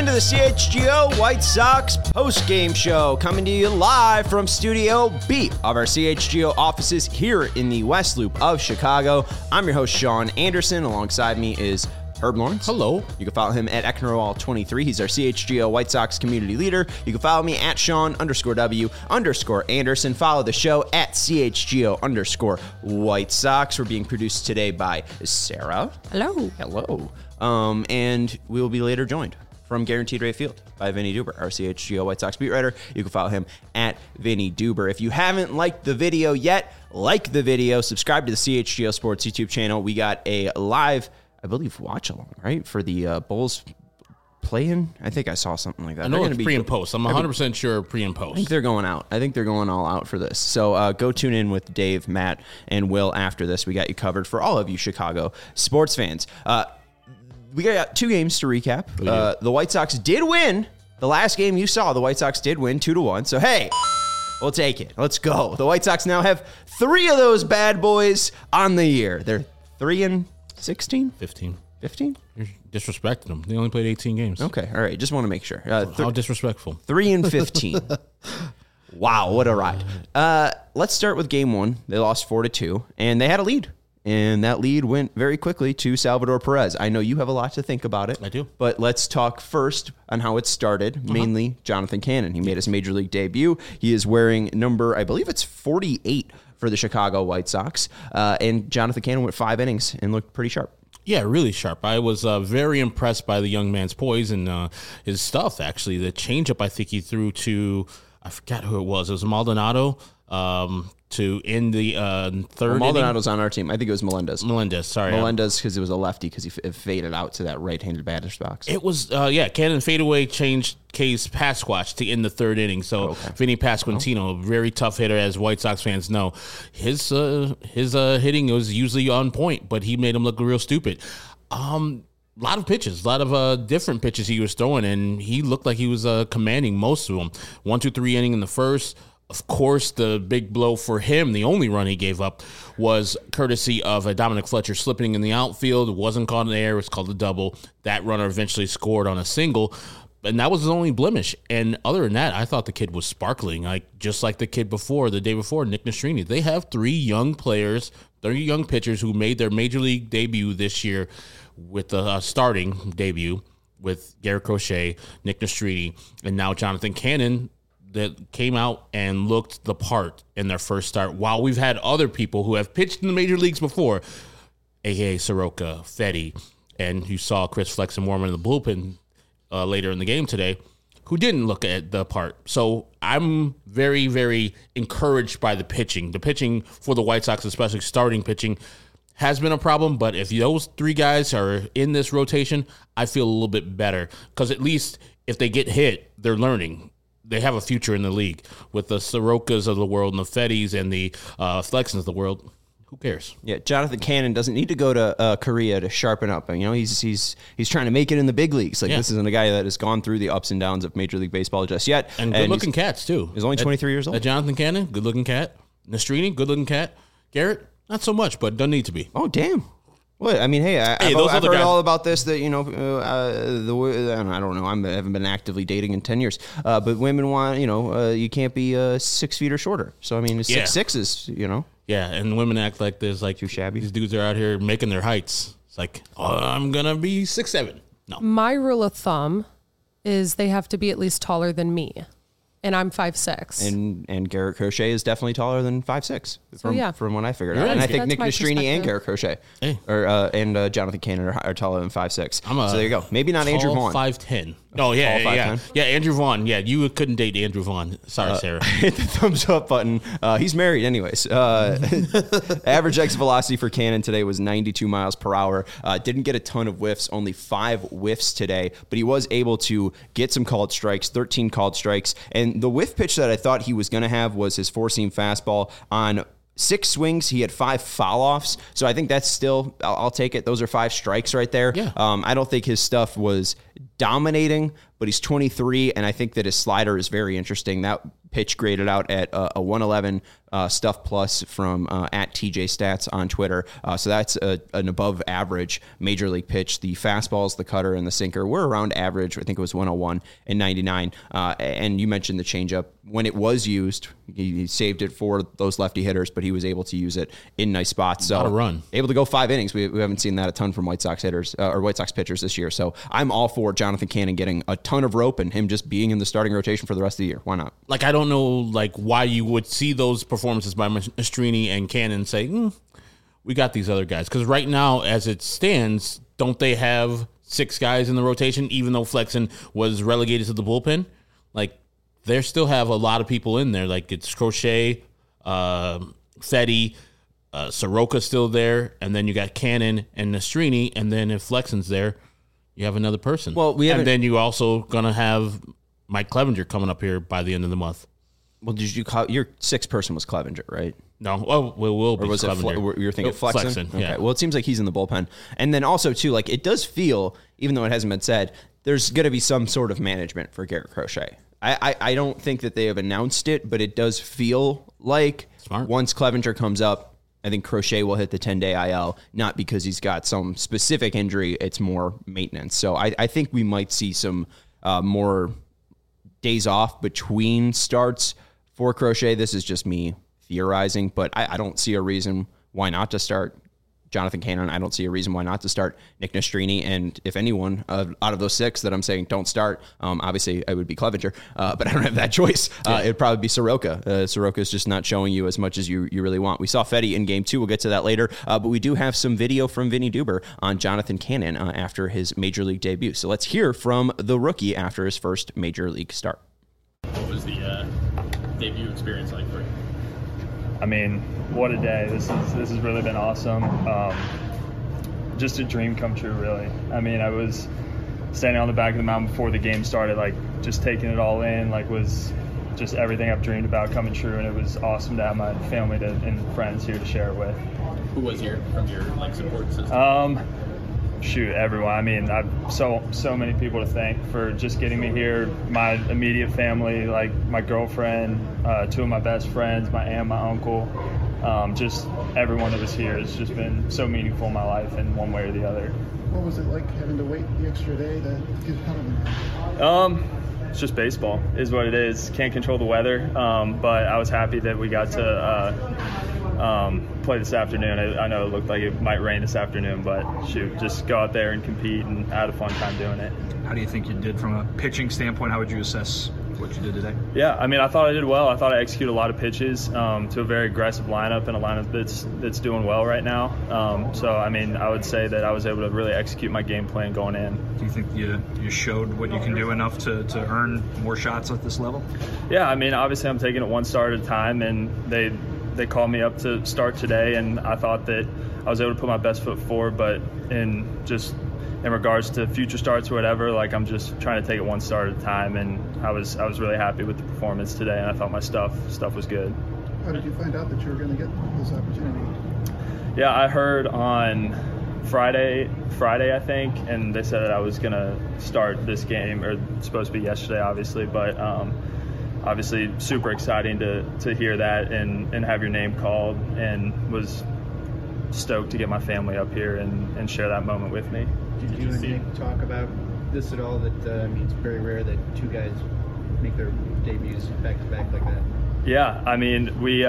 into the CHGO White Sox post-game show, coming to you live from Studio B of our CHGO offices here in the West Loop of Chicago. I'm your host, Sean Anderson. Alongside me is Herb Lawrence. Hello. You can follow him at Ecknerwall23. He's our CHGO White Sox community leader. You can follow me at Sean_W_Anderson. Follow the show at CHGO_White Sox. We're being produced today by Sarah. Hello. Hello. And we will be later joined from Guaranteed Rate Field by Vinny Duber, our CHGO White Sox beat writer. You can follow him at Vinny Duber. If you haven't liked the video yet, like the video, subscribe to the CHGO Sports YouTube channel. We got a live, I believe, watch along, right? For the Bulls play-in. I think I saw something like that. I know it's pre and post. I'm 100% sure pre and post. I think they're going out. I think they're going all out for this. So go tune in with Dave, Matt, and Will after this. We got you covered for all of you Chicago sports fans. We got two games to recap. The White Sox did win. The last game you saw, the White Sox did win 2-1. So, hey, we'll take it. Let's go. The White Sox now have 3 of those bad boys on the year. They're 3-16? 15. 15? You're disrespecting them. They only played 18 games. Okay, all right. Just want to make sure. How disrespectful. 3-15. Wow, what a ride. Let's start with game 1. They lost 4-2, and they had a lead. And that lead went very quickly to Salvador Perez. I know you have a lot to think about it. I do. But let's talk first on how it started, mainly Jonathan Cannon. He made his major league debut. He is wearing number, I believe it's 48 for the Chicago White Sox. And Jonathan Cannon went 5 innings and looked pretty sharp. Yeah, really sharp. I was very impressed by the young man's poise and his stuff, actually. The changeup I think he threw to, I forgot who it was. It was Maldonado. To end the third Maldonado's on our team. I think it was Melendez. Sorry. Melendez, because it was a lefty, because he faded out to that right-handed batter's box. It was, Cannon fadeaway changed K's Pasquatch to end the third inning. So Vinny Pasquantino, a very tough hitter, as White Sox fans know. His hitting was usually on point, but he made him look real stupid. A lot of pitches, a lot of different pitches he was throwing, and he looked like he was commanding most of them. 1-2-3 inning in the first. Of course, the big blow for him, the only run he gave up, was courtesy of Dominic Fletcher slipping in the outfield. It wasn't caught in the air. It was called a double. That runner eventually scored on a single, and that was his only blemish. And other than that, I thought the kid was sparkling, just like the kid the day before, Nick Nastrini. They have 3 young players, 3 young pitchers who made their major league debut this year with the starting debut with Garrett Crochet, Nick Nastrini, and now Jonathan Cannon, that came out and looked the part in their first start, while we've had other people who have pitched in the major leagues before, a.k.a. Soroka, Fetty, and you saw Chris Flexen warm in the bullpen later in the game today, who didn't look at the part. So I'm very, very encouraged by the pitching. The pitching for the White Sox, especially starting pitching, has been a problem, but if those 3 guys are in this rotation, I feel a little bit better, because at least if they get hit, they're learning. They have a future in the league. With the Sorokas of the world and the Fetties and the Flexens of the world, who cares? Yeah, Jonathan Cannon doesn't need to go to Korea to sharpen up. You know, he's trying to make it in the big leagues. This isn't a guy that has gone through the ups and downs of Major League Baseball just yet. And good-looking cats, too. He's only 23 years old. Jonathan Cannon, good-looking cat. Nastrini, good-looking cat. Garrett, not so much, but doesn't need to be. Oh, damn. What? I mean, hey, I've heard all about this, that, I don't know, I haven't been actively dating in 10 years, but women want, you can't be 6 feet or shorter. So, I mean, 6'6" is, Yeah, and women act like there's too shabby. These dudes are out here making their heights. It's like, I'm going to be 6'7". No. My rule of thumb is they have to be at least taller than me. And I'm 5'6". And Garrett Crochet is definitely taller than 5'6", from what I figured out. Right. And I think Nick Nastrini and Garrett Crochet and Jonathan Cannon are taller than 5'6". So there you go. Maybe not Andrew Vaughn. 5'10". Oh, yeah. Yeah, Andrew Vaughn. Yeah, you couldn't date Andrew Vaughn. Sorry, Sarah. Hit the thumbs up button. He's married anyways. Average exit velocity for Cannon today was 92 miles per hour. Didn't get a ton of whiffs, only 5 whiffs today, but he was able to get some called strikes, 13 called strikes. And the whiff pitch that I thought he was going to have was his 4-seam fastball. On 6 swings, he had 5 foul-offs. So I think that's still, I'll take it. Those are 5 strikes right there. Yeah. I don't think his stuff was dominating, but he's 23, and I think that his slider is very interesting. That pitch graded out at a 111 stuff plus from at TJ Stats on Twitter. So that's an above average major league pitch. The fastballs, the cutter, and the sinker were around average. I think it was 101 and 99. And you mentioned the changeup. When it was used, he saved it for those lefty hitters, but he was able to use it in nice spots. So a run. Able to go 5 innings. We haven't seen that a ton from White Sox hitters or White Sox pitchers this year. So I'm all for Jonathan Cannon getting a ton of rope and him just being in the starting rotation for the rest of the year. Why not? Like, I don't know, like, why you would see those performances by Maestrini and Cannon and say, we got these other guys. Because right now, as it stands, don't they have 6 guys in the rotation, even though Flexen was relegated to the bullpen? Like, they still have a lot of people in there. Like, it's Crochet, Fetty, Soroka's still there, and then you got Cannon and Maestrini, and then if Flexen's there, you have another person. Well, and then you also going to have Mike Clevenger coming up here by the end of the month. Well, did you call your 6th person was Clevenger, right? No, well, will be. Or was Clevenger. You were thinking Flexen? Flexen, yeah. Okay. Well, it seems like he's in the bullpen, and then also too, like it does feel, even though it hasn't been said, there's going to be some sort of management for Garrett Crochet. I don't think that they have announced it, but it does feel like once Clevenger comes up, I think Crochet will hit the 10-day IL, not because he's got some specific injury. It's more maintenance. So I think we might see some more days off between starts for Crochet. This is just me theorizing, but I don't see a reason why not to start Jonathan Cannon. I don't see a reason why not to start Nick Maestrini. And if anyone out of those 6 that I'm saying don't start, obviously I would be Clevenger, but I don't have that choice. It'd probably be Soroka. Soroka's just not showing you as much as you really want. We saw Fetty in game 2. We'll get to that later. But we do have some video from Vinny Duber on Jonathan Cannon after his major league debut. So let's hear from the rookie after his first major league start. What was the debut experience like for you? I mean, what a day. This has really been awesome. Just a dream come true, really. I mean, I was standing on the back of the mountain before the game started, like just taking it all in, like was just everything I've dreamed about coming true, and it was awesome to have my family and friends here to share it with. Who was here from your support system? Everyone. I mean, I've so many people to thank for just getting me here. My immediate family, like my girlfriend, 2 of my best friends, my aunt, my uncle, just everyone that was here has just been so meaningful in my life in one way or the other. What was it like having to wait the extra day to get out of it? It's just baseball is what it is. Can't control the weather, but I was happy that we got to play this afternoon. I know it looked like it might rain this afternoon, but shoot, just go out there and compete, and I had a fun time doing it. How do you think you did from a pitching standpoint? How would you assess what you did today? Yeah, I mean, I thought I did well. I thought I executed a lot of pitches to a very aggressive lineup and a lineup that's doing well right now. So, I mean, I would say that I was able to really execute my game plan going in. Do you think you showed what you can do enough to earn more shots at this level? Yeah, I mean, obviously I'm taking it one start at a time, and they called me up to start today, and I thought that I was able to put my best foot forward, but in regards to future starts or whatever, like I'm just trying to take it one start at a time, and I was really happy with the performance today, and I thought my stuff was good. How did you find out that you were going to get this opportunity? Yeah, I heard on Friday I think, and they said that I was going to start this game, or supposed to be yesterday obviously, but obviously super exciting to hear that and have your name called, and was stoked to get my family up here and share that moment with me. Did you and Nick talk about this at all? That I mean, it's very rare that 2 guys make their debuts back to back like that. Yeah, I mean, we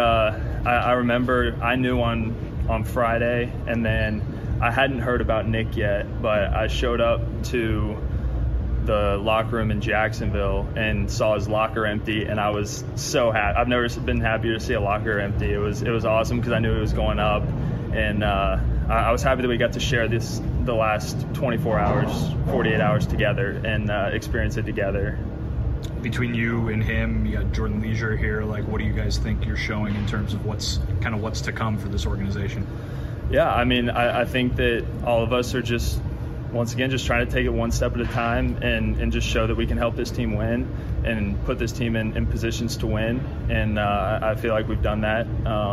I remember I knew on Friday, and then I hadn't heard about Nick yet, but I showed up to the locker room in Jacksonville and saw his locker empty, and I was so happy. I've never been happier to see a locker empty. It was awesome because I knew it was going up, and I was happy that we got to share the last 24 hours, 48 hours together, and experience it together. Between you and him, you got Jordan Leisure here. Like, what do you guys think you're showing in terms of what's to come for this organization? Yeah, I mean, I think that all of us are just, once again, just trying to take it one step at a time and just show that we can help this team win and put this team in positions to win. And I feel like we've done that.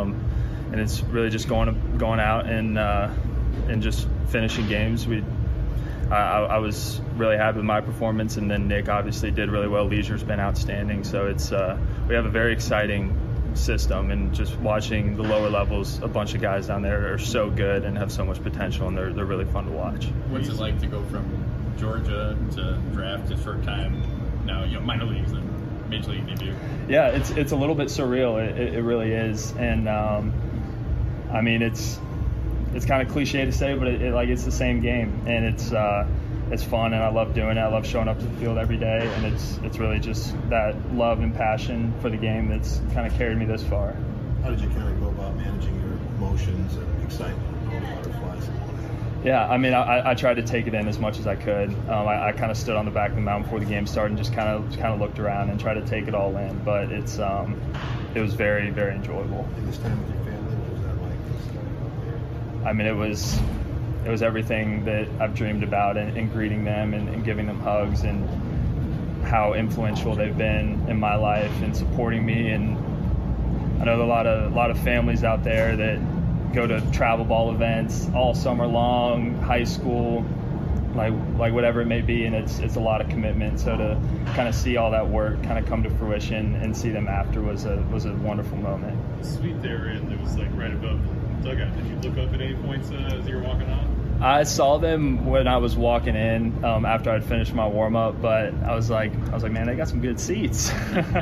And it's really just going out and just finishing games. I was really happy with my performance, and then Nick obviously did really well. Leisure's been outstanding, so it's we have a very exciting system, and just watching the lower levels, a bunch of guys down there are so good and have so much potential, and they're really fun to watch. What's it like to go from Georgia to draft to short time now, minor leagues and major league debut? Yeah, it's a little bit surreal. It really is, and I mean it's kind of cliche to say, but it's the same game, and it's fun, and I love doing it. I love showing up to the field every day, and it's really just that love and passion for the game that's kind of carried me this far. How did you kind of go about managing your emotions and excitement and all the butterflies? Yeah, I mean, I tried to take it in as much as I could. I kind of stood on the back of the mountain before the game started and just kind of looked around and tried to take it all in. But it was very, very enjoyable. And this time with your family, what was that like? Starting out there? I mean, it was everything that I've dreamed about, and greeting them and giving them hugs, and how influential they've been in my life and supporting me. And I know a lot of families out there that go to travel ball events all summer long, high school, like whatever it may be, and it's a lot of commitment. So to kind of see all that work kind of come to fruition and see them after was a wonderful moment. The suite they were in, it was like right above the dugout. Did you look up at any points as you were walking out? I saw them when I was walking in after I'd finished my warm up, but I was like, man, they got some good seats.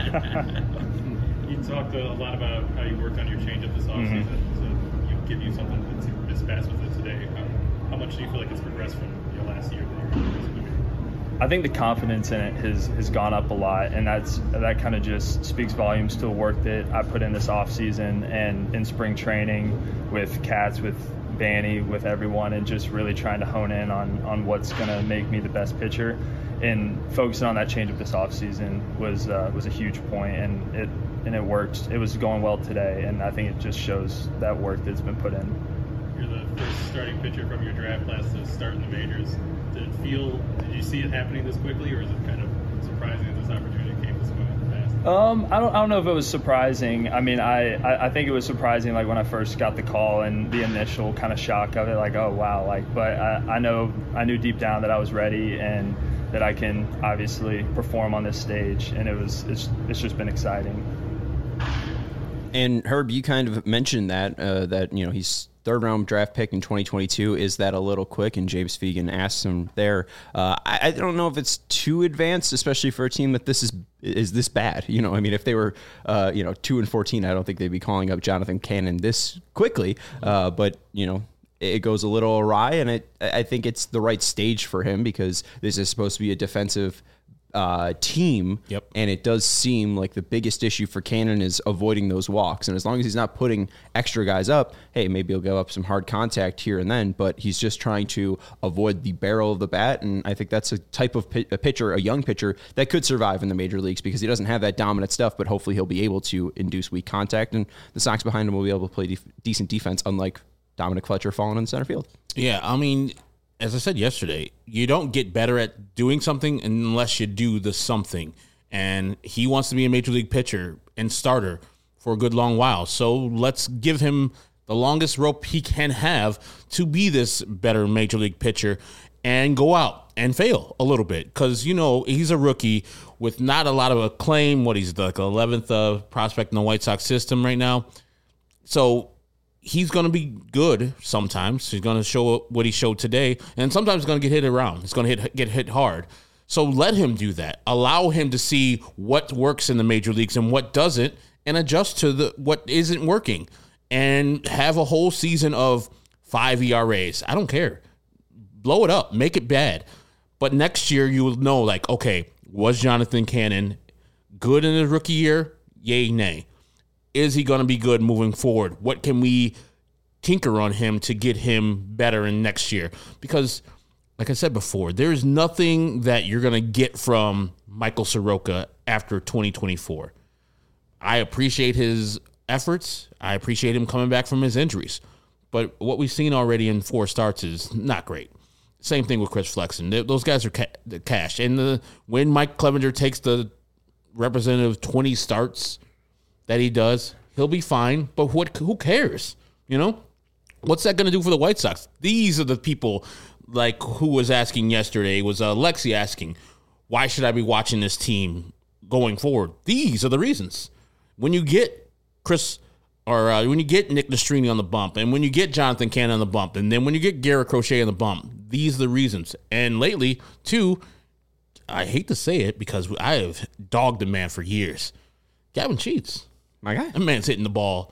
You talked a lot about how you worked on your changeup this offseason. To give you something to miss fast with it today. How much do you feel like it's progressed from your last year? I think the confidence in it has gone up a lot, and that kind of just speaks volumes to the work that I put in this offseason and in spring training with Cats, with Banny, with everyone, and just really trying to hone in on what's going to make me the best pitcher. And focusing on that changeup this offseason was a huge point, and it worked. It was going well today, and I think it just shows that work that's been put in. You're the first starting pitcher from your draft class to start in the majors. Did you see it happening this quickly, or is it kind of surprising that this opportunity came this fast? I don't know if it was surprising. I mean, I think it was surprising, like when I first got the call and the initial kind of shock of it, like, oh wow, but I knew deep down that I was ready and that I can obviously perform on this stage, and it's just been exciting. And Herb, you kind of mentioned that he's third round draft pick in 2022. Is that a little quick? And James Fegan asked him there. I don't know if it's too advanced, especially for a team that is this bad. I mean, if they were 2-14, I don't think they'd be calling up Jonathan Cannon this quickly. But it goes a little awry, and I think it's the right stage for him because this is supposed to be a defensive team. Yep. And it does seem like the biggest issue for Cannon is avoiding those walks. And as long as he's not putting extra guys up, hey, maybe he'll give up some hard contact here and then, but he's just trying to avoid the barrel of the bat. And I think that's a type of a pitcher, a young pitcher that could survive in the major leagues because he doesn't have that dominant stuff, but hopefully he'll be able to induce weak contact, and the Sox behind him will be able to play decent defense, unlike Dominic Fletcher falling in center field. Yeah, I mean, as I said yesterday, you don't get better at doing something unless you do the something. And he wants to be a major league pitcher and starter for a good long while. So let's give him the longest rope he can have to be this better major league pitcher and go out and fail a little bit. Because, he's a rookie with not a lot of acclaim. He's like 11th prospect in the White Sox system right now. So he's going to be good sometimes. He's going to show what he showed today, and sometimes he's going to get hit around. He's going to get hit hard. So let him do that. Allow him to see what works in the major leagues and what doesn't, and adjust to what isn't working, and have a whole season of 5 ERAs. I don't care. Blow it up. Make it bad. But next year you will know, okay, was Jonathan Cannon good in his rookie year? Yay, nay. Is he going to be good moving forward? What can we tinker on him to get him better in next year? Because, like I said before, there's nothing that you're going to get from Michael Soroka after 2024. I appreciate his efforts. I appreciate him coming back from his injuries. But what we've seen already in 4 starts is not great. Same thing with Chris Flexen. Those guys are cash. And when Mike Clevenger takes the representative 20 starts that he does, he'll be fine. But who cares? What's that going to do for the White Sox? These are the people like who was asking yesterday, was Lexi asking, why should I be watching this team going forward? These are the reasons. When you get when you get Nick Nastrini on the bump, and when you get Jonathan Cannon on the bump, and then when you get Garrett Crochet on the bump, these are the reasons. And lately, too, I hate to say it because I have dogged the man for years. Gavin Sheets. My guy. That man's hitting the ball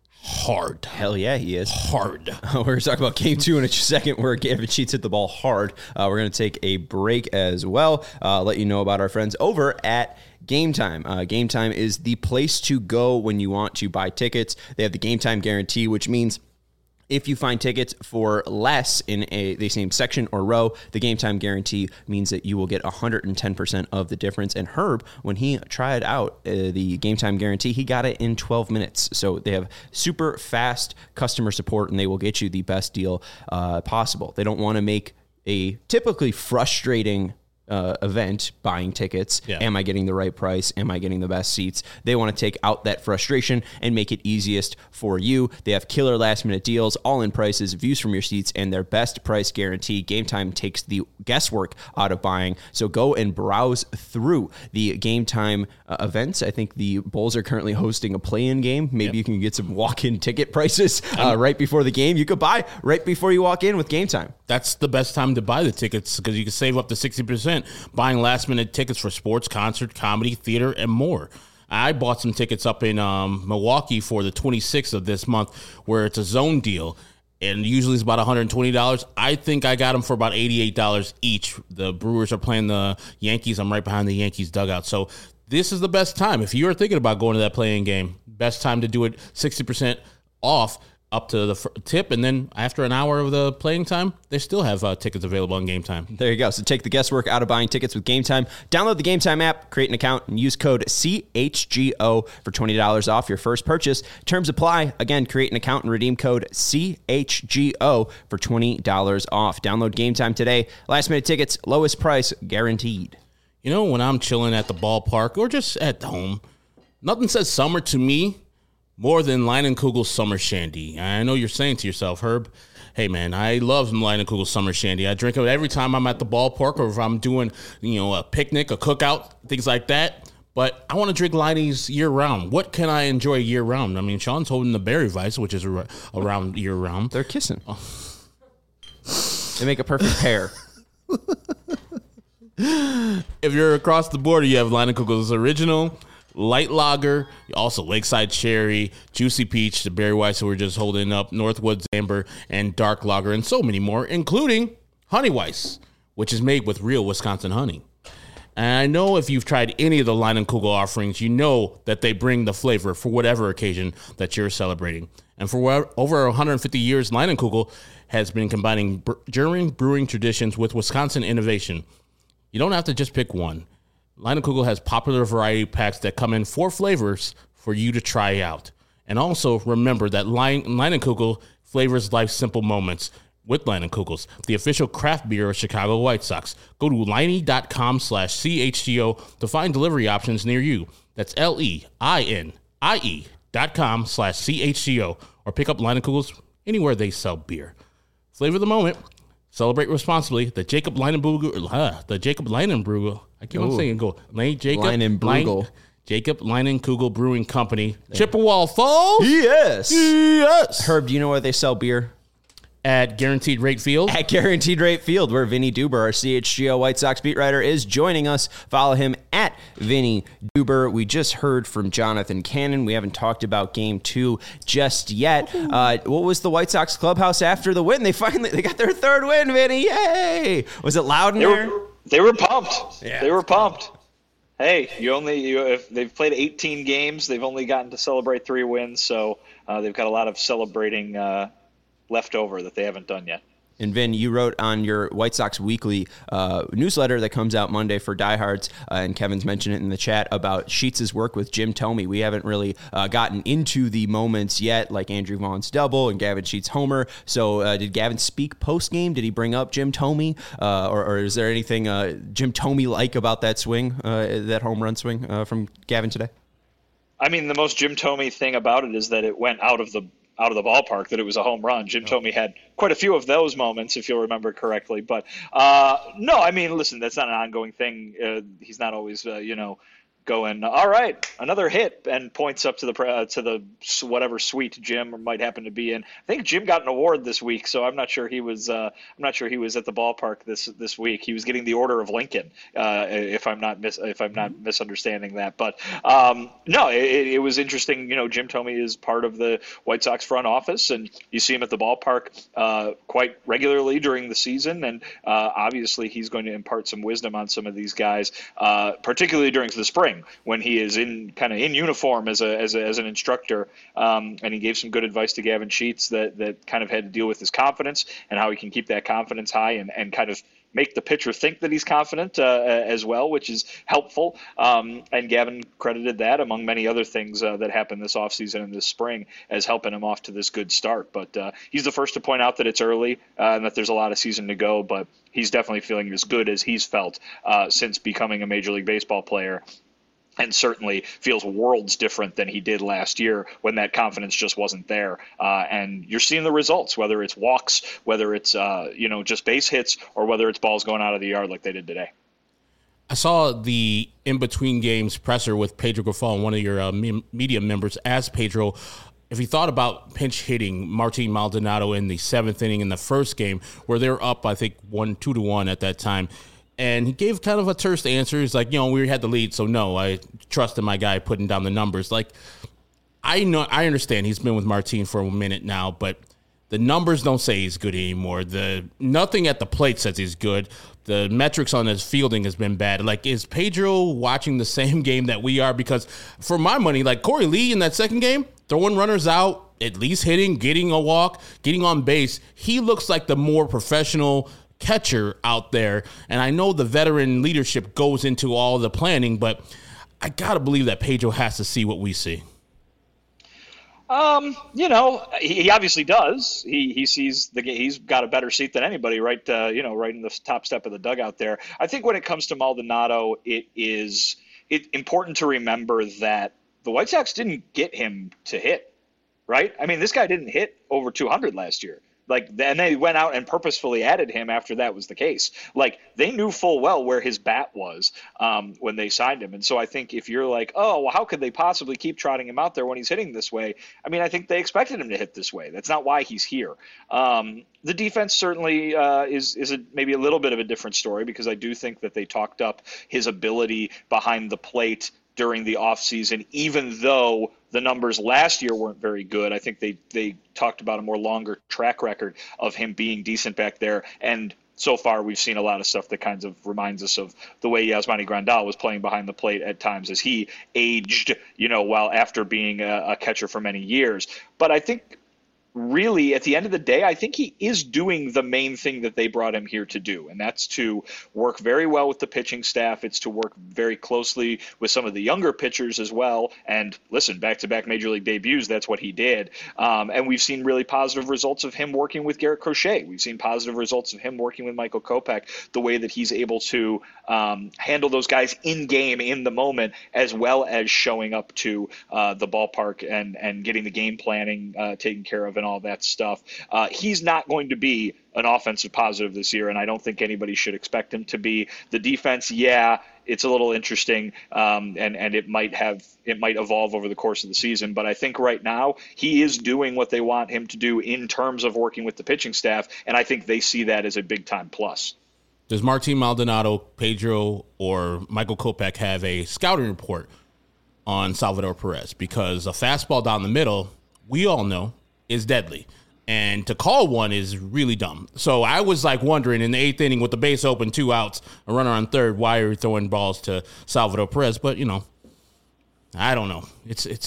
hard. Hell yeah, he is. Hard. We're going to talk about game 2 in a second where Gavin Sheets hit the ball hard. We're going to take a break as well. Let you know about our friends over at Game Time. Game Time is the place to go when you want to buy tickets. They have the Game Time guarantee, which means if you find tickets for less in the same section or row, the Game Time guarantee means that you will get 110% of the difference. And Herb, when he tried out the Game Time guarantee, he got it in 12 minutes. So they have super fast customer support, and they will get you the best deal possible. They don't want to make a typically frustrating event buying tickets. Yeah. Am I getting the right price? Am I getting the best seats? They want to take out that frustration and make it easiest for you. They have killer last minute deals, all in prices, views from your seats, and their best price guarantee. Game Time takes the guesswork out of buying. So go and browse through the Game Time events. I think the Bulls are currently hosting a play-in game. Maybe you can get some walk-in ticket prices right before the game. You could buy right before you walk in with Game Time. That's the best time to buy the tickets because you can save up to 60% buying last-minute tickets for sports, concert, comedy, theater, and more. I bought some tickets up in Milwaukee for the 26th of this month where it's a zone deal, and usually it's about $120. I think I got them for about $88 each. The Brewers are playing the Yankees. I'm right behind the Yankees dugout. So this is the best time. If you're thinking about going to that playing game, best time to do it, 60% off up to the tip, and then after an hour of the playing time, they still have tickets available on Game Time. There you go. So take the guesswork out of buying tickets with Game Time. Download the Game Time app, create an account, and use code CHGO for $20 off your first purchase. Terms apply. Again, create an account and redeem code CHGO for $20 off. Download Game Time today. Last minute tickets, lowest price guaranteed. You know, when I'm chilling at the ballpark or just at home, nothing says summer to me more than Leinenkugel's Summer Shandy. I know you're saying to yourself, Herb, hey, man, I love Leinenkugel's Summer Shandy. I drink it every time I'm at the ballpark or if I'm doing, a picnic, a cookout, things like that. But I want to drink Leinie's year-round. What can I enjoy year-round? I mean, Sean's holding the Berry Weiss, which is around year-round. They're kissing. Oh. They make a perfect pair. If you're across the border, you have Leinenkugel's Original, Light Lager, also Lakeside Cherry, Juicy Peach, the Berry Weiss that we're just holding up, Northwoods Amber, and Dark Lager, and so many more, including Honey Weiss, which is made with real Wisconsin honey. And I know if you've tried any of the Leinenkugel offerings, you know that they bring the flavor for whatever occasion that you're celebrating. And for over 150 years, Leinenkugel has been combining German brewing traditions with Wisconsin innovation. You don't have to just pick one. Leinenkugel has popular variety packs that come in 4 flavors for you to try out. And also remember that Leinenkugel flavors life's simple moments with Leinenkugels, the official craft beer of Chicago White Sox. Go to Leinie.com/CHGO to find delivery options near you. That's LEINIE.com/CHGO or pick up Leinenkugels anywhere they sell beer. Flavor the moment. Celebrate responsibly. The Jacob Leinenkugel. I keep on saying go. Jacob Leinenkugel Brewing Company. Chippewa Falls. Yes. Herb, do you know where they sell beer? At Guaranteed Rate Field. At Guaranteed Rate Field, where Vinny Duber, our CHGO White Sox beat writer, is joining us. Follow him at Vinny Duber. We just heard from Jonathan Cannon. We haven't talked about Game 2 just yet. What was the White Sox clubhouse after the win? They got their 3rd win, Vinny. Yay! Was it loud in there? They were pumped. Yeah. They were pumped. Hey, if they've played 18 games, they've only gotten to celebrate 3 wins, so they've got a lot of celebrating left over that they haven't done yet. And Vin, you wrote on your White Sox Weekly newsletter that comes out Monday for diehards, and Kevin's mentioned it in the chat, about Sheets' work with Jim Thome. We haven't really gotten into the moments yet, like Andrew Vaughn's double and Gavin Sheets' homer. So did Gavin speak post-game? Did he bring up Jim Thome? Or is there anything Jim Thome-like about that swing, that home run swing from Gavin today? I mean, the most Jim Thome thing about it is that it went out of the out of the ballpark that it was a home run. Jim Thome had quite a few of those moments, if you'll remember correctly. But no, I mean, listen, that's not an ongoing thing. He's not always, going, all right, another hit, and points up to the whatever suite Jim might happen to be in. I think Jim got an award this week, so I'm not sure he was at the ballpark this week. He was getting the Order of Lincoln, if I'm not misunderstanding that. But no, it was interesting. Jim Thome is part of the White Sox front office, and you see him at the ballpark quite regularly during the season, and obviously he's going to impart some wisdom on some of these guys, particularly during the spring, when he is in uniform as an instructor, and he gave some good advice to Gavin Sheets that kind of had to deal with his confidence and how he can keep that confidence high and kind of make the pitcher think that he's confident as well, which is helpful. And Gavin credited that, among many other things that happened this offseason and this spring, as helping him off to this good start. But he's the first to point out that it's early and that there's a lot of season to go, but he's definitely feeling as good as he's felt since becoming a Major League Baseball player. And certainly feels worlds different than he did last year when that confidence just wasn't there. And you're seeing the results, whether it's walks, whether it's just base hits, or whether it's balls going out of the yard like they did today. I saw the in-between games presser with Pedro Grifol, one of your media members, asked Pedro if he thought about pinch hitting Martin Maldonado in the 7th inning in the first game, where they were up, I think, 2-1 at that time. And he gave kind of a terse answer. He's like, we had the lead, so no, I trusted my guy putting down the numbers. Like, I understand he's been with Martin for a minute now, but the numbers don't say he's good anymore. Nothing at the plate says he's good. The metrics on his fielding has been bad. Like, is Pedro watching the same game that we are? Because for my money, like Corey Lee in that second game, throwing runners out, at least hitting, getting a walk, getting on base, he looks like the more professional catcher out there. And I know the veteran leadership goes into all the planning, but I gotta believe that Pedro has to see what we see. He obviously does. He sees he's got a better seat than anybody, right? Right in the top step of the dugout there. I think when it comes to Maldonado, it's important to remember that the White Sox didn't get him to hit, right? I mean, this guy didn't hit over 200 last year. And they went out and purposefully added him after that was the case. Like, they knew full well where his bat was when they signed him. And so I think if you're like, oh, well, how could they possibly keep trotting him out there when he's hitting this way? I mean, I think they expected him to hit this way. That's not why he's here. The defense certainly is maybe a little bit of a different story, because I do think that they talked up his ability behind the plate during the offseason, even though the numbers last year weren't very good. I think they talked about a more longer track record of him being decent back there. And so far we've seen a lot of stuff that kind of reminds us of the way Yasmani Grandal was playing behind the plate at times as he aged, while after being a catcher for many years. But I think really, at the end of the day, I think he is doing the main thing that they brought him here to do, and that's to work very well with the pitching staff. It's to work very closely with some of the younger pitchers as well. And listen, back-to-back Major League debuts, that's what he did. And we've seen really positive results of him working with Garrett Crochet. We've seen positive results of him working with Michael Kopech, the way that he's able to handle those guys in-game, in the moment, as well as showing up to the ballpark and getting the game planning taken care of and all that stuff. He's not going to be an offensive positive this year, and I don't think anybody should expect him to be. The defense, it's a little interesting, and it might evolve over the course of the season. But I think right now he is doing what they want him to do in terms of working with the pitching staff, and I think they see that as a big-time plus. Does Martin Maldonado, Pedro, or Michael Kopech have a scouting report on Salvador Perez? Because a fastball down the middle, we all know, is deadly. And to call one is really dumb. So I was wondering in the 8th inning with the base open, 2 outs, a runner on third, why are you throwing balls to Salvador Perez? But I don't know.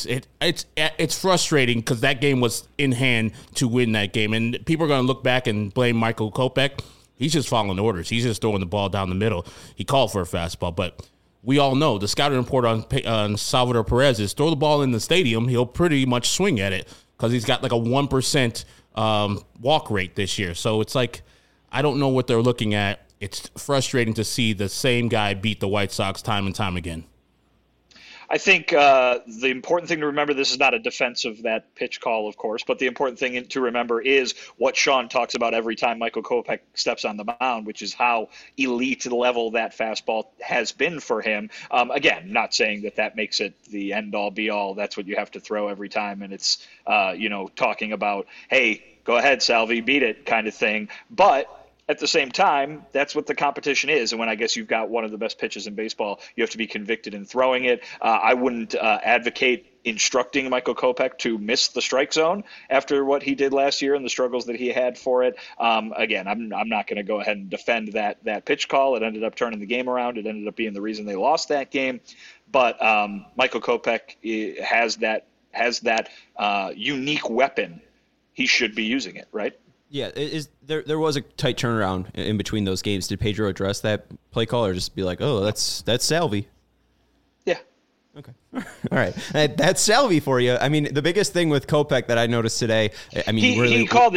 It's frustrating because that game was in hand to win that game. And people are going to look back and blame Michael Kopech. He's just following orders. He's just throwing the ball down the middle. He called for a fastball, but we all know the scouting report on Salvador Perez is throw the ball in the stadium. He'll pretty much swing at it because he's got a 1% walk rate this year. So it's I don't know what they're looking at. It's frustrating to see the same guy beat the White Sox time and time again. I think the important thing to remember, this is not a defense of that pitch call, of course, but the important thing to remember is what Sean talks about every time Michael Kopech steps on the mound, which is how elite level that fastball has been for him. Again, not saying that makes it the end-all, be-all. That's what you have to throw every time, and it's, talking about, hey, go ahead, Salvi, beat it kind of thing. But at the same time, that's what the competition is. And when I guess you've got one of the best pitches in baseball, you have to be convicted in throwing it. I wouldn't advocate instructing Michael Kopech to miss the strike zone after what he did last year and the struggles that he had for it. Again, I'm not going to go ahead and defend that pitch call. It ended up turning the game around. It ended up being the reason they lost that game. But Michael Kopech has that unique weapon. He should be using it, right? Yeah, there was a tight turnaround in between those games. Did Pedro address that play call or just be like, oh, that's Salvi? Yeah. Okay. All right. That's Salvi for you. I mean, the biggest thing with Kopech that I noticed today, I mean, he called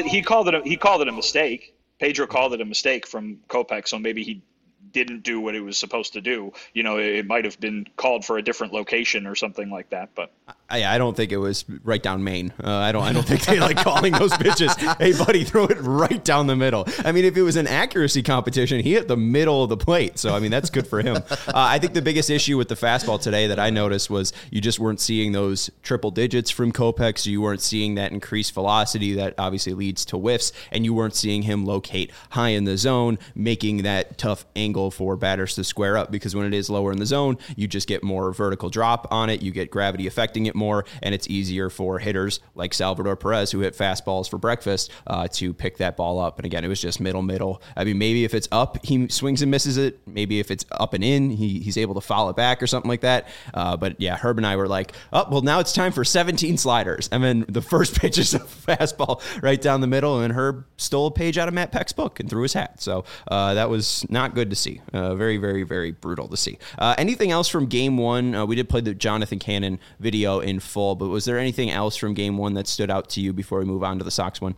it a mistake. Pedro called it a mistake from Kopech, so maybe he didn't do what it was supposed to do. It might have been called for a different location or something like that. But I don't think it was right down Maine. I don't think they like calling those pitches. Hey, buddy, throw it right down the middle. I mean, if it was an accuracy competition, he hit the middle of the plate. So, I mean, that's good for him. I think the biggest issue with the fastball today that I noticed was you just weren't seeing those triple digits from Kopech. So you weren't seeing that increased velocity that obviously leads to whiffs. And you weren't seeing him locate high in the zone, making that tough angle for batters to square up, because when it is lower in the zone, you just get more vertical drop on it. You get gravity affecting it more, and it's easier for hitters like Salvador Perez, who hit fastballs for breakfast, to pick that ball up. And again, it was just middle. I mean, maybe if it's up, he swings and misses it. Maybe if it's up and in, he's able to foul it back or something like that. But yeah, Herb and I were like, oh, well, now it's time for 17 sliders. And then the first pitch is a fastball right down the middle, and Herb stole a page out of Matt Peck's book and threw his hat. So that was not good to see. Very, very, very brutal to see. Anything else from game one? We did play the Jonathan Cannon video in full, but was there anything else from game one that stood out to you before we move on to the Sox one?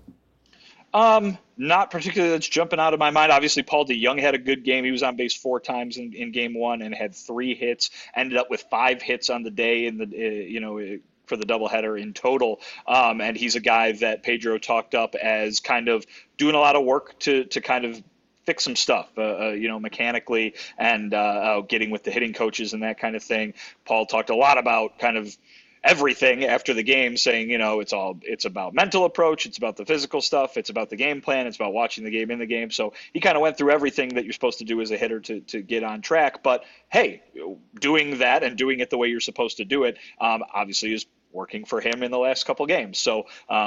Not particularly that's jumping out of my mind. Obviously, Paul DeJong had a good game. He was on base 4 times in game one and had 3 hits, ended up with 5 hits on the day in the, for the doubleheader in total. And he's a guy that Pedro talked up as kind of doing a lot of work to kind of fix some stuff, mechanically, and getting with the hitting coaches and that kind of thing. Paul talked a lot about kind of everything after the game, saying, it's about mental approach, it's about the physical stuff, it's about the game plan, it's about watching the game in the game. So he kind of went through everything that you're supposed to do as a hitter to get on track. But hey, doing that and doing it the way you're supposed to do it, obviously is working for him in the last couple games. So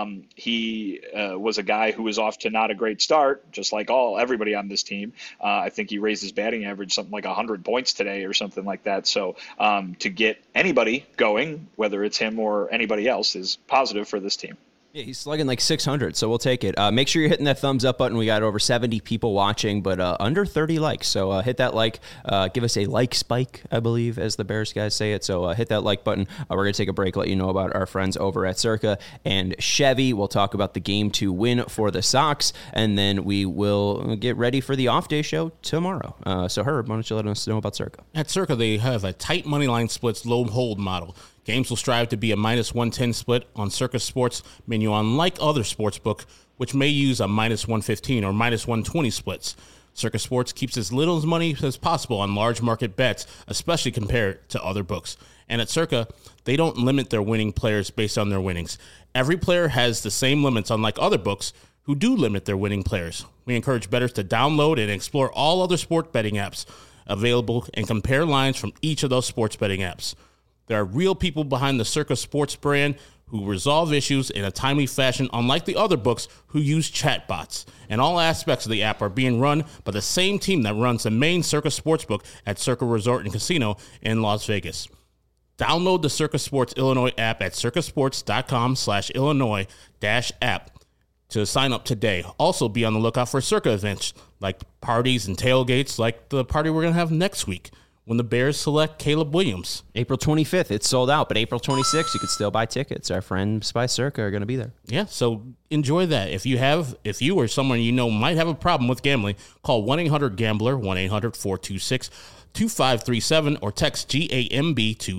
he was a guy who was off to not a great start, just like everybody on this team. I think he raised his batting average something like 100 points today or something like that. So to get anybody going, whether it's him or anybody else, is positive for this team. Yeah, he's slugging like 600, so we'll take it. Make sure you're hitting that thumbs up button. We got over 70 people watching, but under 30 likes. So hit that like. Give us a like spike, I believe, as the Bears guys say it. So hit that like button. We're going to take a break, let you know about our friends over at Circa and Chevy. We'll talk about the Game 2 win for the Sox, and then we will get ready for the off-day show tomorrow. So Herb, why don't you let us know about Circa? At Circa, they have a tight money line splits low hold model. Games will strive to be a -110 split on Circa Sports menu, unlike other sportsbook, which may use a -115 or -120 splits. Circa Sports keeps as little money as possible on large market bets, especially compared to other books. And at Circa, they don't limit their winning players based on their winnings. Every player has the same limits, unlike other books who do limit their winning players. We encourage bettors to download and explore all other sport betting apps available and compare lines from each of those sports betting apps. There are real people behind the Circa Sports brand who resolve issues in a timely fashion, unlike the other books who use chatbots. And all aspects of the app are being run by the same team that runs the main Circa Sportsbook at Circa Resort and Casino in Las Vegas. Download the Circa Sports Illinois app at circasports.com/Illinois-app to sign up today. Also be on the lookout for Circa events like parties and tailgates like the party we're going to have next week when the Bears select Caleb Williams. April 25th, it's sold out, but April 26th, you could still buy tickets. Our friends by Circa are going to be there. Yeah, so enjoy that. If you or someone you know might have a problem with gambling, call 1-800-GAMBLER, 1-800-426-2537, or text GAMB to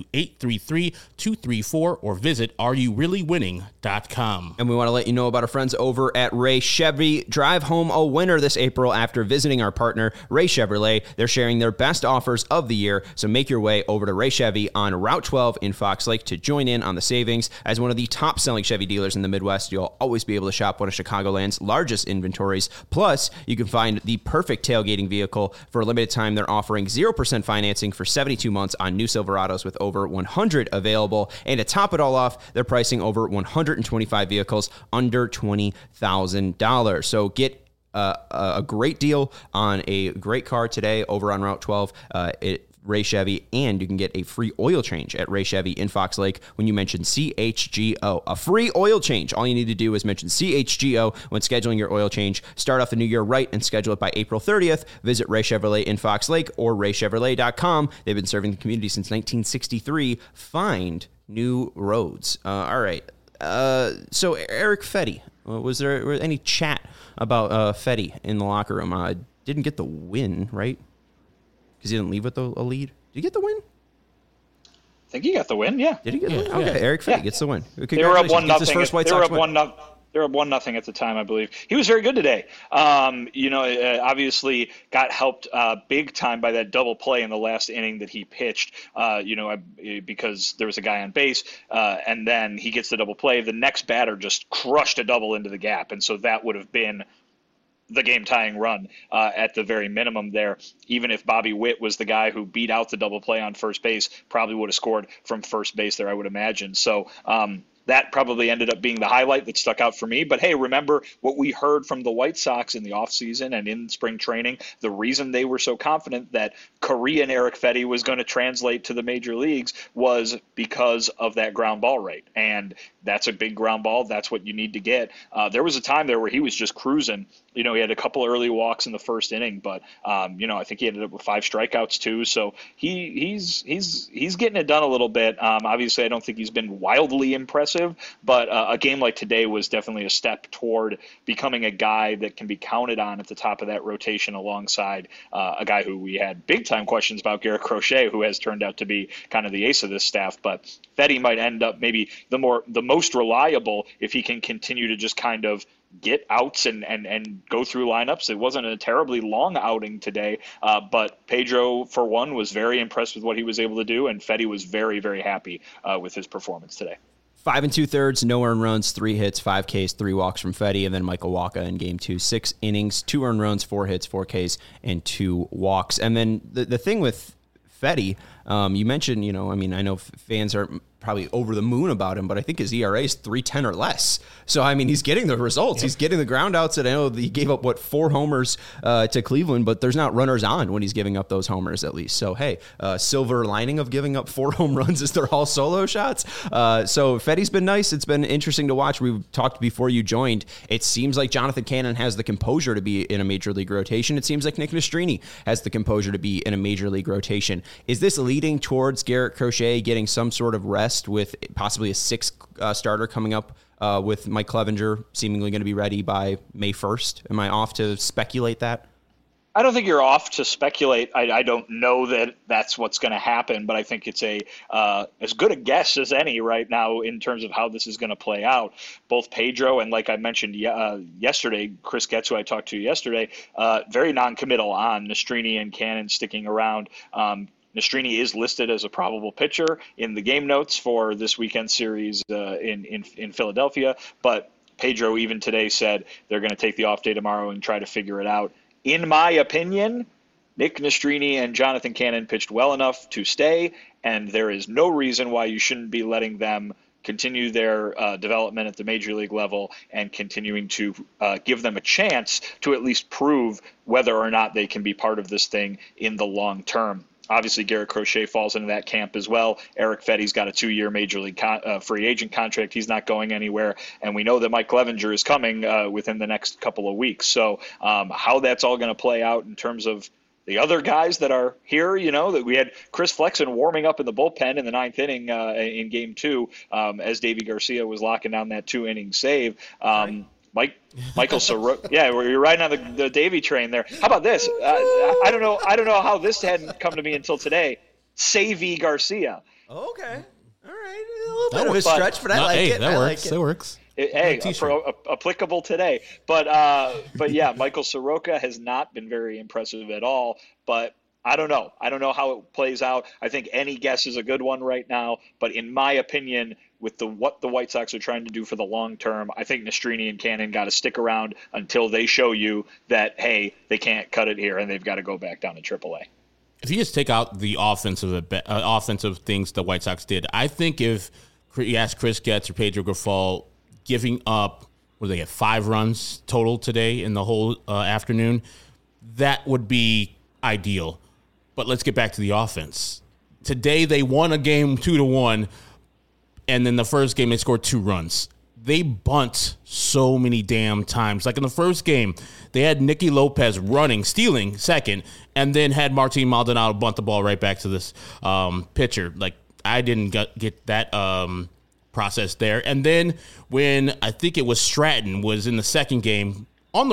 833-234, or visit areyoureallywinning.com. And we want to let you know about our friends over at Ray Chevy. Drive home a winner this April after visiting our partner, Ray Chevrolet. They're sharing their best offers of the year, so make your way over to Ray Chevy on Route 12 in Fox Lake to join in on the savings. As one of the top-selling Chevy dealers in the Midwest, you'll always be able to shop one of Chicagoland's largest inventories. Plus, you can find the perfect tailgating vehicle. For a limited time, they're offering 0% financing for 72 months on new Silverados with over 100 available. And to top it all off, they're pricing over 125 vehicles under $20,000. So get a great deal on a great car today over on Route 12 Ray Chevy, and you can get a free oil change at Ray Chevy in Fox Lake when you mention CHGO. A free oil change. All you need to do is mention CHGO when scheduling your oil change. Start off the new year right and schedule it by April 30th. Visit Ray Chevrolet in Fox Lake or raychevrolet.com. They've been serving the community since 1963. Find new roads. All right. So Erick Fedde, was there any chat about Fedde in the locker room? Didn't get the win, right? Because he didn't leave with a lead. Did he get the win? I think he got the win. Yeah. Did he get the win? Okay, Erick Fedde gets the win. They were up 1-0. They were up 1-0 at the time, I believe. He was very good today. Obviously got helped big time by that double play in the last inning that he pitched. Because there was a guy on base, and then he gets the double play. The next batter just crushed a double into the gap, and so that would have been the game-tying run at the very minimum there. Even if Bobby Witt was the guy who beat out the double play on first base, probably would have scored from first base there, I would imagine. So that probably ended up being the highlight that stuck out for me. But, hey, remember what we heard from the White Sox in the offseason and in spring training. The reason they were so confident that Korean Erick Fedde was going to translate to the major leagues was because of that ground ball rate. And that's a big ground ball. That's what you need to get. There was a time there where he was just cruising. He had a couple early walks in the first inning, but I think he ended up with 5 strikeouts too. So he's getting it done a little bit. Obviously, I don't think he's been wildly impressive, but a game like today was definitely a step toward becoming a guy that can be counted on at the top of that rotation alongside a guy who we had big time questions about, Garrett Crochet, who has turned out to be kind of the ace of this staff. But Fedde might end up maybe the most reliable if he can continue to just kind of get outs and go through lineups. It wasn't a terribly long outing today, but Pedro, for one, was very impressed with what he was able to do, and Fedde was very, very happy with his performance today. 5 2/3, no earned runs, 3 hits, 5 Ks, 3 walks from Fedde, and then Michael Wacha in game 2, 6 innings, 2 earned runs, 4 hits, 4 Ks, and 2 walks. And then the thing with Fedde, you mentioned, I know fans are probably over the moon about him, but I think his ERA is 3.10 or less. So, he's getting the results. Yep. He's getting the ground outs. And I know he gave up, 4 homers to Cleveland, but there's not runners on when he's giving up those homers at least. So, hey, silver lining of giving up 4 home runs is they're all solo shots. So Fedde's been nice. It's been interesting to watch. We've talked before you joined. It seems like Jonathan Cannon has the composure to be in a major league rotation. It seems like Nick Nastrini has the composure to be in a major league rotation. Is this leading towards Garrett Crochet getting some sort of rest with possibly a 6th starter coming up with Mike Clevenger seemingly going to be ready by May 1st? Am I off to speculate that? I don't think you're off to speculate. I don't know that that's what's going to happen, but I think it's as good a guess as any right now in terms of how this is going to play out. Both Pedro and, like I mentioned yesterday, Chris Getz, who I talked to yesterday, very non-committal on Nastrini and Cannon sticking around. Nastrini is listed as a probable pitcher in the game notes for this weekend series in Philadelphia, but Pedro even today said they're going to take the off day tomorrow and try to figure it out. In my opinion, Nick Nastrini and Jonathan Cannon pitched well enough to stay, and there is no reason why you shouldn't be letting them continue their development at the major league level and continuing to give them a chance to at least prove whether or not they can be part of this thing in the long term. Obviously, Garrett Crochet falls into that camp as well. Erick Fedde's got a 2-year major league free agent contract. He's not going anywhere. And we know that Mike Clevenger is coming within the next couple of weeks. So how that's all going to play out in terms of the other guys that are here, that we had Chris Flexen warming up in the bullpen in the 9th inning in game 2 as Davy Garcia was locking down that 2-inning save. Michael Soroka. Yeah, you're riding on the Davey train there. How about this? I don't know how this hadn't come to me until today. Savy Garcia. Okay. All right. A little bit of a stretch, but I like it. That works. That works. Applicable today. But yeah, Michael Soroka has not been very impressive at all. But I don't know. I don't know how it plays out. I think any guess is a good one right now. But in my opinion, with what the White Sox are trying to do for the long term, I think Nastrini and Cannon got to stick around until they show you that, hey, they can't cut it here and they've got to go back down to AAA. If you just take out the offensive things the White Sox did, I think if you ask Chris Getz or Pedro Grifol giving up, what did they get, 5 runs total today in the whole afternoon, that would be ideal. But let's get back to the offense. Today they won a game 2-1, and then the first game they scored 2 runs. They bunt so many damn times. Like in the first game, they had Nicky Lopez stealing second, and then had Martin Maldonado bunt the ball right back to this pitcher. Like, I didn't get that process there. And then when I think it was Stratton was in the second game, on the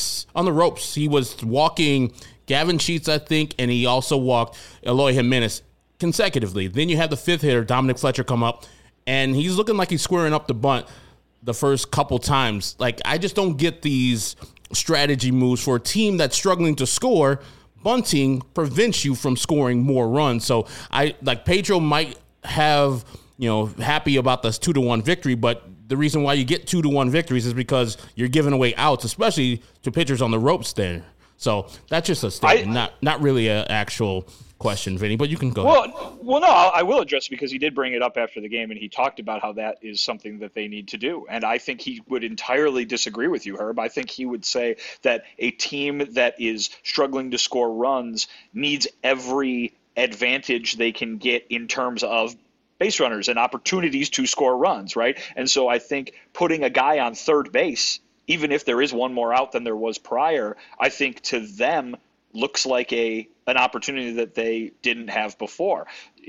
ropes, he was walking Gavin Sheets, I think, and he also walked Eloy Jimenez consecutively. Then you have the 5th hitter, Dominic Fletcher, come up, and he's looking like he's squaring up the bunt the first couple times. Like, I just don't get these strategy moves for a team that's struggling to score. Bunting prevents you from scoring more runs. So Pedro might have, happy about this 2-1 victory, but the reason why you get 2-1 victories is because you're giving away outs, especially to pitchers on the ropes there. So that's just a statement, not really an actual question, Vinny, but you can go ahead. Well, no, I will address it because he did bring it up after the game, and he talked about how that is something that they need to do. And I think he would entirely disagree with you, Herb. I think he would say that a team that is struggling to score runs needs every advantage they can get in terms of base runners and opportunities to score runs, right? And so I think putting a guy on third base, even if there is one more out than there was prior, I think to them looks like an opportunity that they didn't have before.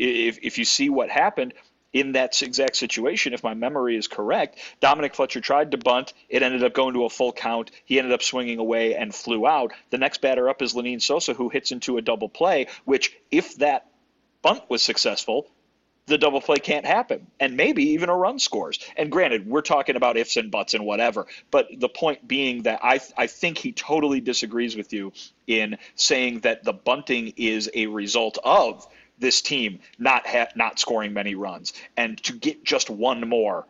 If you see what happened in that exact situation, if my memory is correct, Dominic Fletcher tried to bunt. It ended up going to a full count. He ended up swinging away and flew out. The next batter up is Lenyn Sosa, who hits into a double play, which if that bunt was successful, the double play can't happen, and maybe even a run scores. And granted, we're talking about ifs and buts and whatever, but the point being that I think he totally disagrees with you in saying that the bunting is a result of this team not scoring many runs, and to get just one more.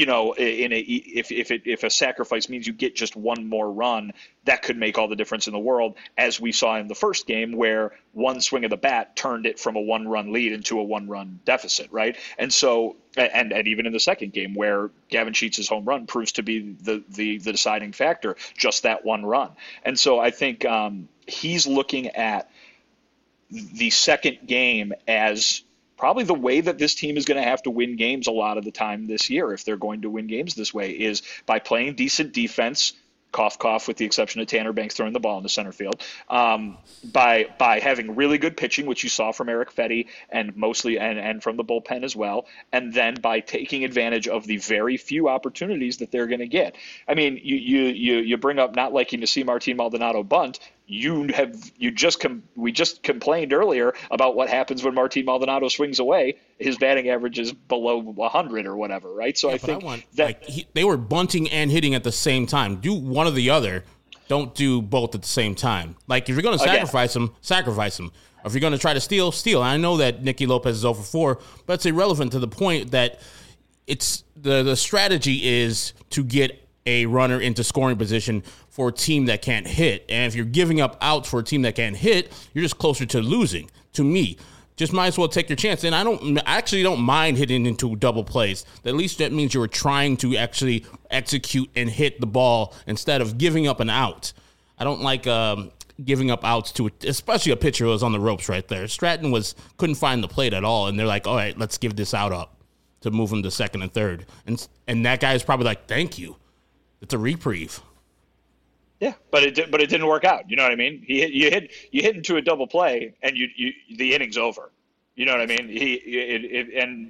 If a sacrifice means you get just one more run, that could make all the difference in the world, as we saw in the first game where one swing of the bat turned it from a 1-run lead into a 1-run deficit, right? And so, and even in the second game where Gavin Sheets' home run proves to be the deciding factor, just that one run. And so I think he's looking at the second game as probably the way that this team is going to have to win games a lot of the time this year, if they're going to win games this way, is by playing decent defense, cough, cough, with the exception of Tanner Banks throwing the ball in the center field, by having really good pitching, which you saw from Eric Fetty and mostly and from the bullpen as well, and then by taking advantage of the very few opportunities that they're going to get. I mean, you bring up not liking to see Martin Maldonado bunt. We just complained earlier about what happens when Martin Maldonado swings away. His batting average is below 100 or whatever, right? So I think they were bunting and hitting at the same time. Do one or the other. Don't do both at the same time. Like, if you're going to sacrifice them, sacrifice them. Or if you're going to try to steal, steal. And I know that Nicky Lopez is 0-4, but it's irrelevant to the point that it's the strategy is to get a runner into scoring position for a team that can't hit. And if you're giving up outs for a team that can't hit, you're just closer to losing, to me. Just might as well take your chance. And I actually don't mind hitting into double plays. At least that means you're trying to actually execute and hit the ball instead of giving up an out. I don't like giving up outs to, especially a pitcher who was on the ropes right there. Stratton couldn't find the plate at all, and they're like, all right, let's give this out up to move him to second and third. And that guy's probably like, thank you. It's a reprieve. Yeah, but it didn't work out. You know what I mean? You hit into a double play, and the inning's over. You know what I mean?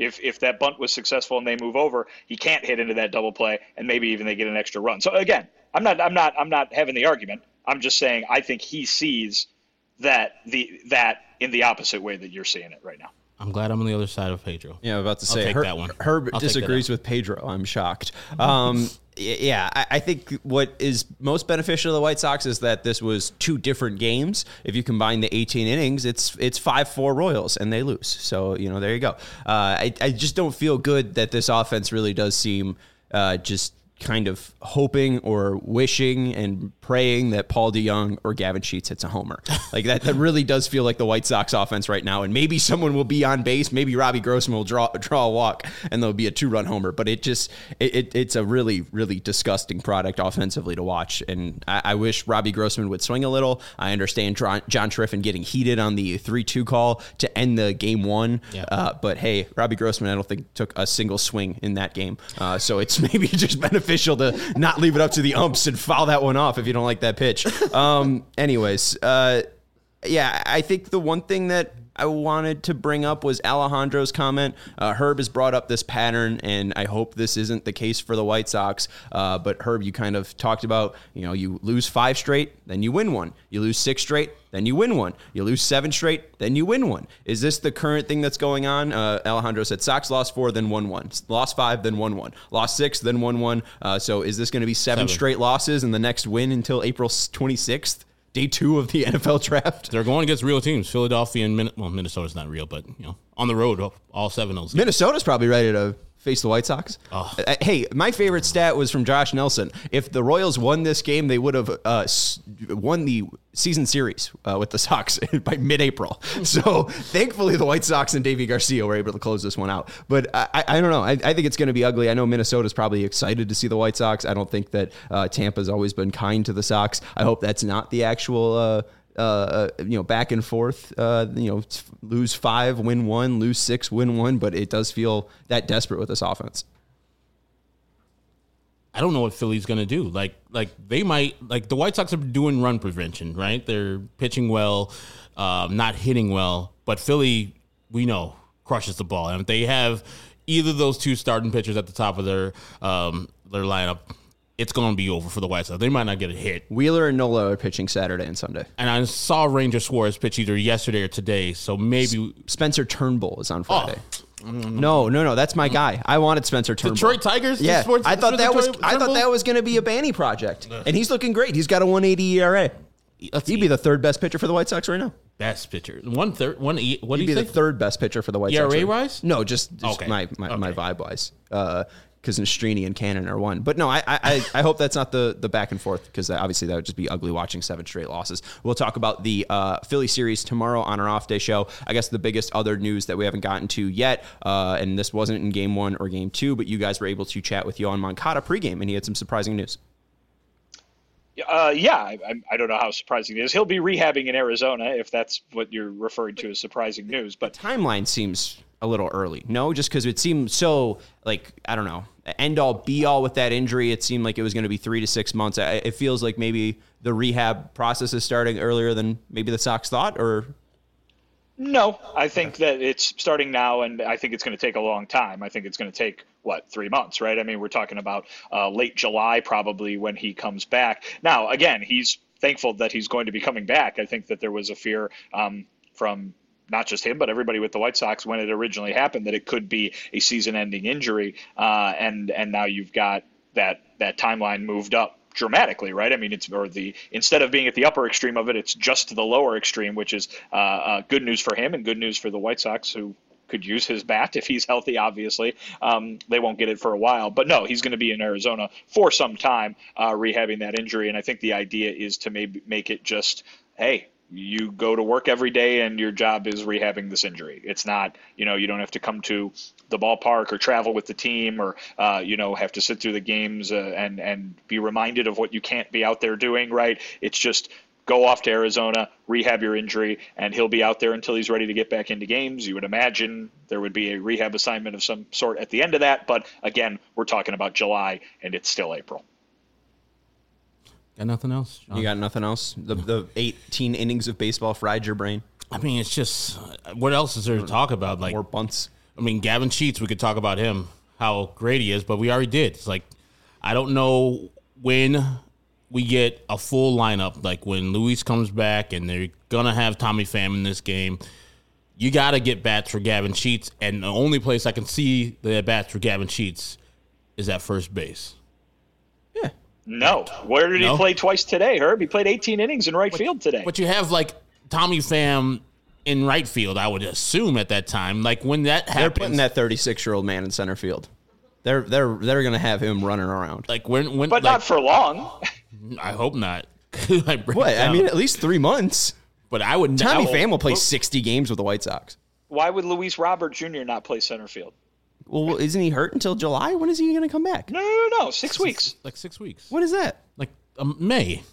If that bunt was successful and they move over, he can't hit into that double play, and maybe even they get an extra run. So again, I'm not having the argument. I'm just saying I think he sees that in the opposite way that you're seeing it right now. I'm glad I'm on the other side of Pedro. Yeah, I'm about to say, I'll take that one. Herb disagrees with Pedro. I'm shocked. I think what is most beneficial to the White Sox is that this was 2 different games. If you combine the 18 innings, it's 5-4 Royals, and they lose. So, there you go. I just don't feel good that this offense really does seem just kind of hoping or wishing and praying that Paul DeJong or Gavin Sheets hits a homer. Like that really does feel like the White Sox offense right now. And maybe someone will be on base. Maybe Robbie Grossman will draw a walk and there'll be a 2-run homer. But it's a really, really disgusting product offensively to watch. And I wish Robbie Grossman would swing a little. I understand John Triffin getting heated on the 3-2 call to end the game 1. Yeah. But hey, Robbie Grossman, I don't think took a single swing in that game. So it's maybe just beneficial to not leave it up to the umps and foul that one off if you don't like that pitch. Anyways, I think the one thing that I wanted to bring up was Alejandro's comment. Herb has brought up this pattern, and I hope this isn't the case for the White Sox. But Herb, you kind of talked about, you lose 5 straight, then you win 1. You lose 6 straight, then you win 1. You lose 7 straight, then you win 1. Is this the current thing that's going on? Alejandro said Sox lost 4, then won 1. Lost 5, then won 1. Lost 6, then won 1. So is this going to be 7 straight losses and the next win until April 26th? Day 2 of the NFL draft. They're going against real teams. Philadelphia and Minnesota's not real, but on the road, all 7 of those. Minnesota's probably ready to face the White Sox. Oh. Hey, my favorite stat was from Josh Nelson. If the Royals won this game, they would have won the season series with the Sox by mid-April. So thankfully, the White Sox and Davey Garcia were able to close this one out. But I don't know. I think it's going to be ugly. I know Minnesota's probably excited to see the White Sox. I don't think that Tampa's always been kind to the Sox. I hope that's not the actual back and forth, lose 5, win 1, lose 6, win 1, but it does feel that desperate with this offense. I don't know what Philly's going to do. Like they might, the White Sox are doing run prevention, right? They're pitching well, not hitting well, but Philly, we know, crushes the ball. And if they have either of those 2 starting pitchers at the top of their lineup, it's going to be over for the White Sox. They might not get a hit. Wheeler and Nola are pitching Saturday and Sunday. And I saw Ranger Suarez pitch either yesterday or today, so maybe... Spencer Turnbull is on Friday. No, that's my guy. I wanted Spencer Turnbull. Detroit Tigers? Yeah, I thought that was going to be a Banny project. And he's looking great. He's got a 1.80 ERA. He'd be the 3rd best pitcher for the White Sox right now. Best pitcher. 1/3. What do you say? He'd be the 3rd best pitcher for the White Sox. ERA-wise? No, just okay. my vibe-wise. Because Nastrini and Cannon are 1. But no, I hope that's not the back and forth, because obviously that would just be ugly watching 7 straight losses. We'll talk about the Philly series tomorrow on our off-day show. I guess the biggest other news that we haven't gotten to yet, and this wasn't in Game 1 or Game 2, but you guys were able to chat with Yoan Moncada pregame, and he had some surprising news. I don't know how surprising it is. He'll be rehabbing in Arizona, if that's what you're referring to as surprising news. But the timeline seems a little early. No, just because it seemed so, I don't know, end-all, be-all with that injury. It seemed like it was going to be 3 to 6 months. It feels like maybe the rehab process is starting earlier than maybe the Sox thought, or... No, I think that it's starting now, and I think it's going to take a long time. I think it's going to take, 3 months, right? I mean, we're talking about late July probably when he comes back. Now, again, he's thankful that he's going to be coming back. I think that there was a fear from not just him, but everybody with the White Sox when it originally happened that it could be a season-ending injury, and now you've got that timeline moved up dramatically, right? I mean, instead of being at the upper extreme of it, it's just to the lower extreme, which is good news for him and good news for the White Sox, who could use his bat if he's healthy. Obviously, they won't get it for a while, but no, he's going to be in Arizona for some time, rehabbing that injury. And I think the idea is to maybe make it just, hey, you go to work every day and your job is rehabbing this injury. It's not, you don't have to come to the ballpark or travel with the team or, have to sit through the games and be reminded of what you can't be out there doing, right? It's just go off to Arizona, rehab your injury, and he'll be out there until he's ready to get back into games. You would imagine there would be a rehab assignment of some sort at the end of that. But again, we're talking about July and it's still April. Got nothing else, John? You got nothing else? The 18 innings of baseball fried your brain? I mean, it's just, what else is there to talk about? More bunts. I mean, Gavin Sheets, we could talk about him, how great he is, but we already did. It's like, I don't know when we get a full lineup, like when Luis comes back and they're going to have Tommy Pham in this game. You got to get bats for Gavin Sheets, and the only place I can see the bats for Gavin Sheets is at first base. Yeah. No. Where did he play twice today, Herb? He played 18 innings in right field today. But you have, like, Tommy Pham in right field, I would assume at that time. Like, when that happens. They're putting that 36-year-old man in center field. They're going to have him running around. Like when but like, not for long. I hope not. What? I mean, at least 3 months. But I would. Tommy Pham will play 60 games with the White Sox. Why would Luis Robert Jr. not play center field? Well, isn't he hurt until July? When is he going to come back? No. 6 weeks. Like 6 weeks. What is that? Like May.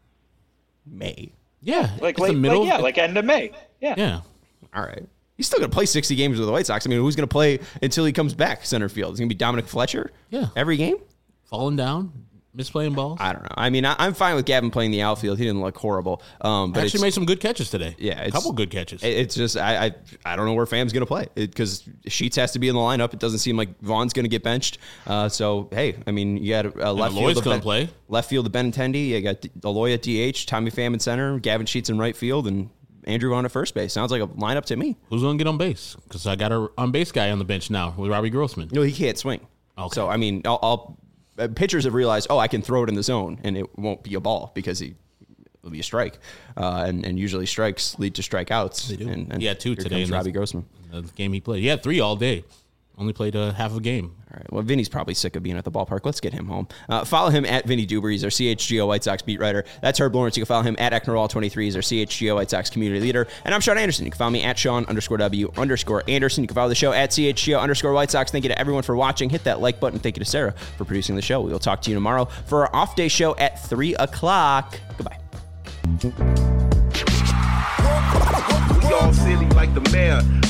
May. Yeah. Like late, the middle. Like end of May. Yeah. Yeah. All right. He's still going to play 60 games with the White Sox. I mean, who's going to play until he comes back center field? Is it going to be Dominic Fletcher? Yeah. Every game? Falling down? Misplaying balls? I don't know. I mean, I'm fine with Gavin playing the outfield. He didn't look horrible. But actually made some good catches today. Yeah. A couple good catches. It's just, I don't know where Pham's going to play because Sheets has to be in the lineup. It doesn't seem like Vaughn's going to get benched. So, hey, I mean, you got left field. Going to play. Left field of Benintendi. You got Eloy at DH, Tommy Pham in center, Gavin Sheets in right field, and Andrew Vaughn at first base. Sounds like a lineup to me. Who's going to get on base? Because I got an on base guy on the bench now with Robbie Grossman. No, he can't swing. Okay. So, I mean, pitchers have realized, I can throw it in the zone, and it won't be a ball because it'll be a strike. And usually strikes lead to strikeouts. They do. And he had 2 today in Robbie Grossman. The game he played. He had 3 all day. Only played half a game. All right. Well, Vinny's probably sick of being at the ballpark. Let's get him home. Follow him at Vinny Duber. He's our CHGO White Sox beat writer. That's Herb Lawrence. You can follow him at Ecknerall23. He's our CHGO White Sox community leader. And I'm Sean Anderson. You can follow me at Sean_W_Anderson. You can follow the show at CHGO_White Sox. Thank you to everyone for watching. Hit that like button. Thank you to Sarah for producing the show. We will talk to you tomorrow for our off-day show at 3 o'clock. Goodbye. We all silly like the mayor.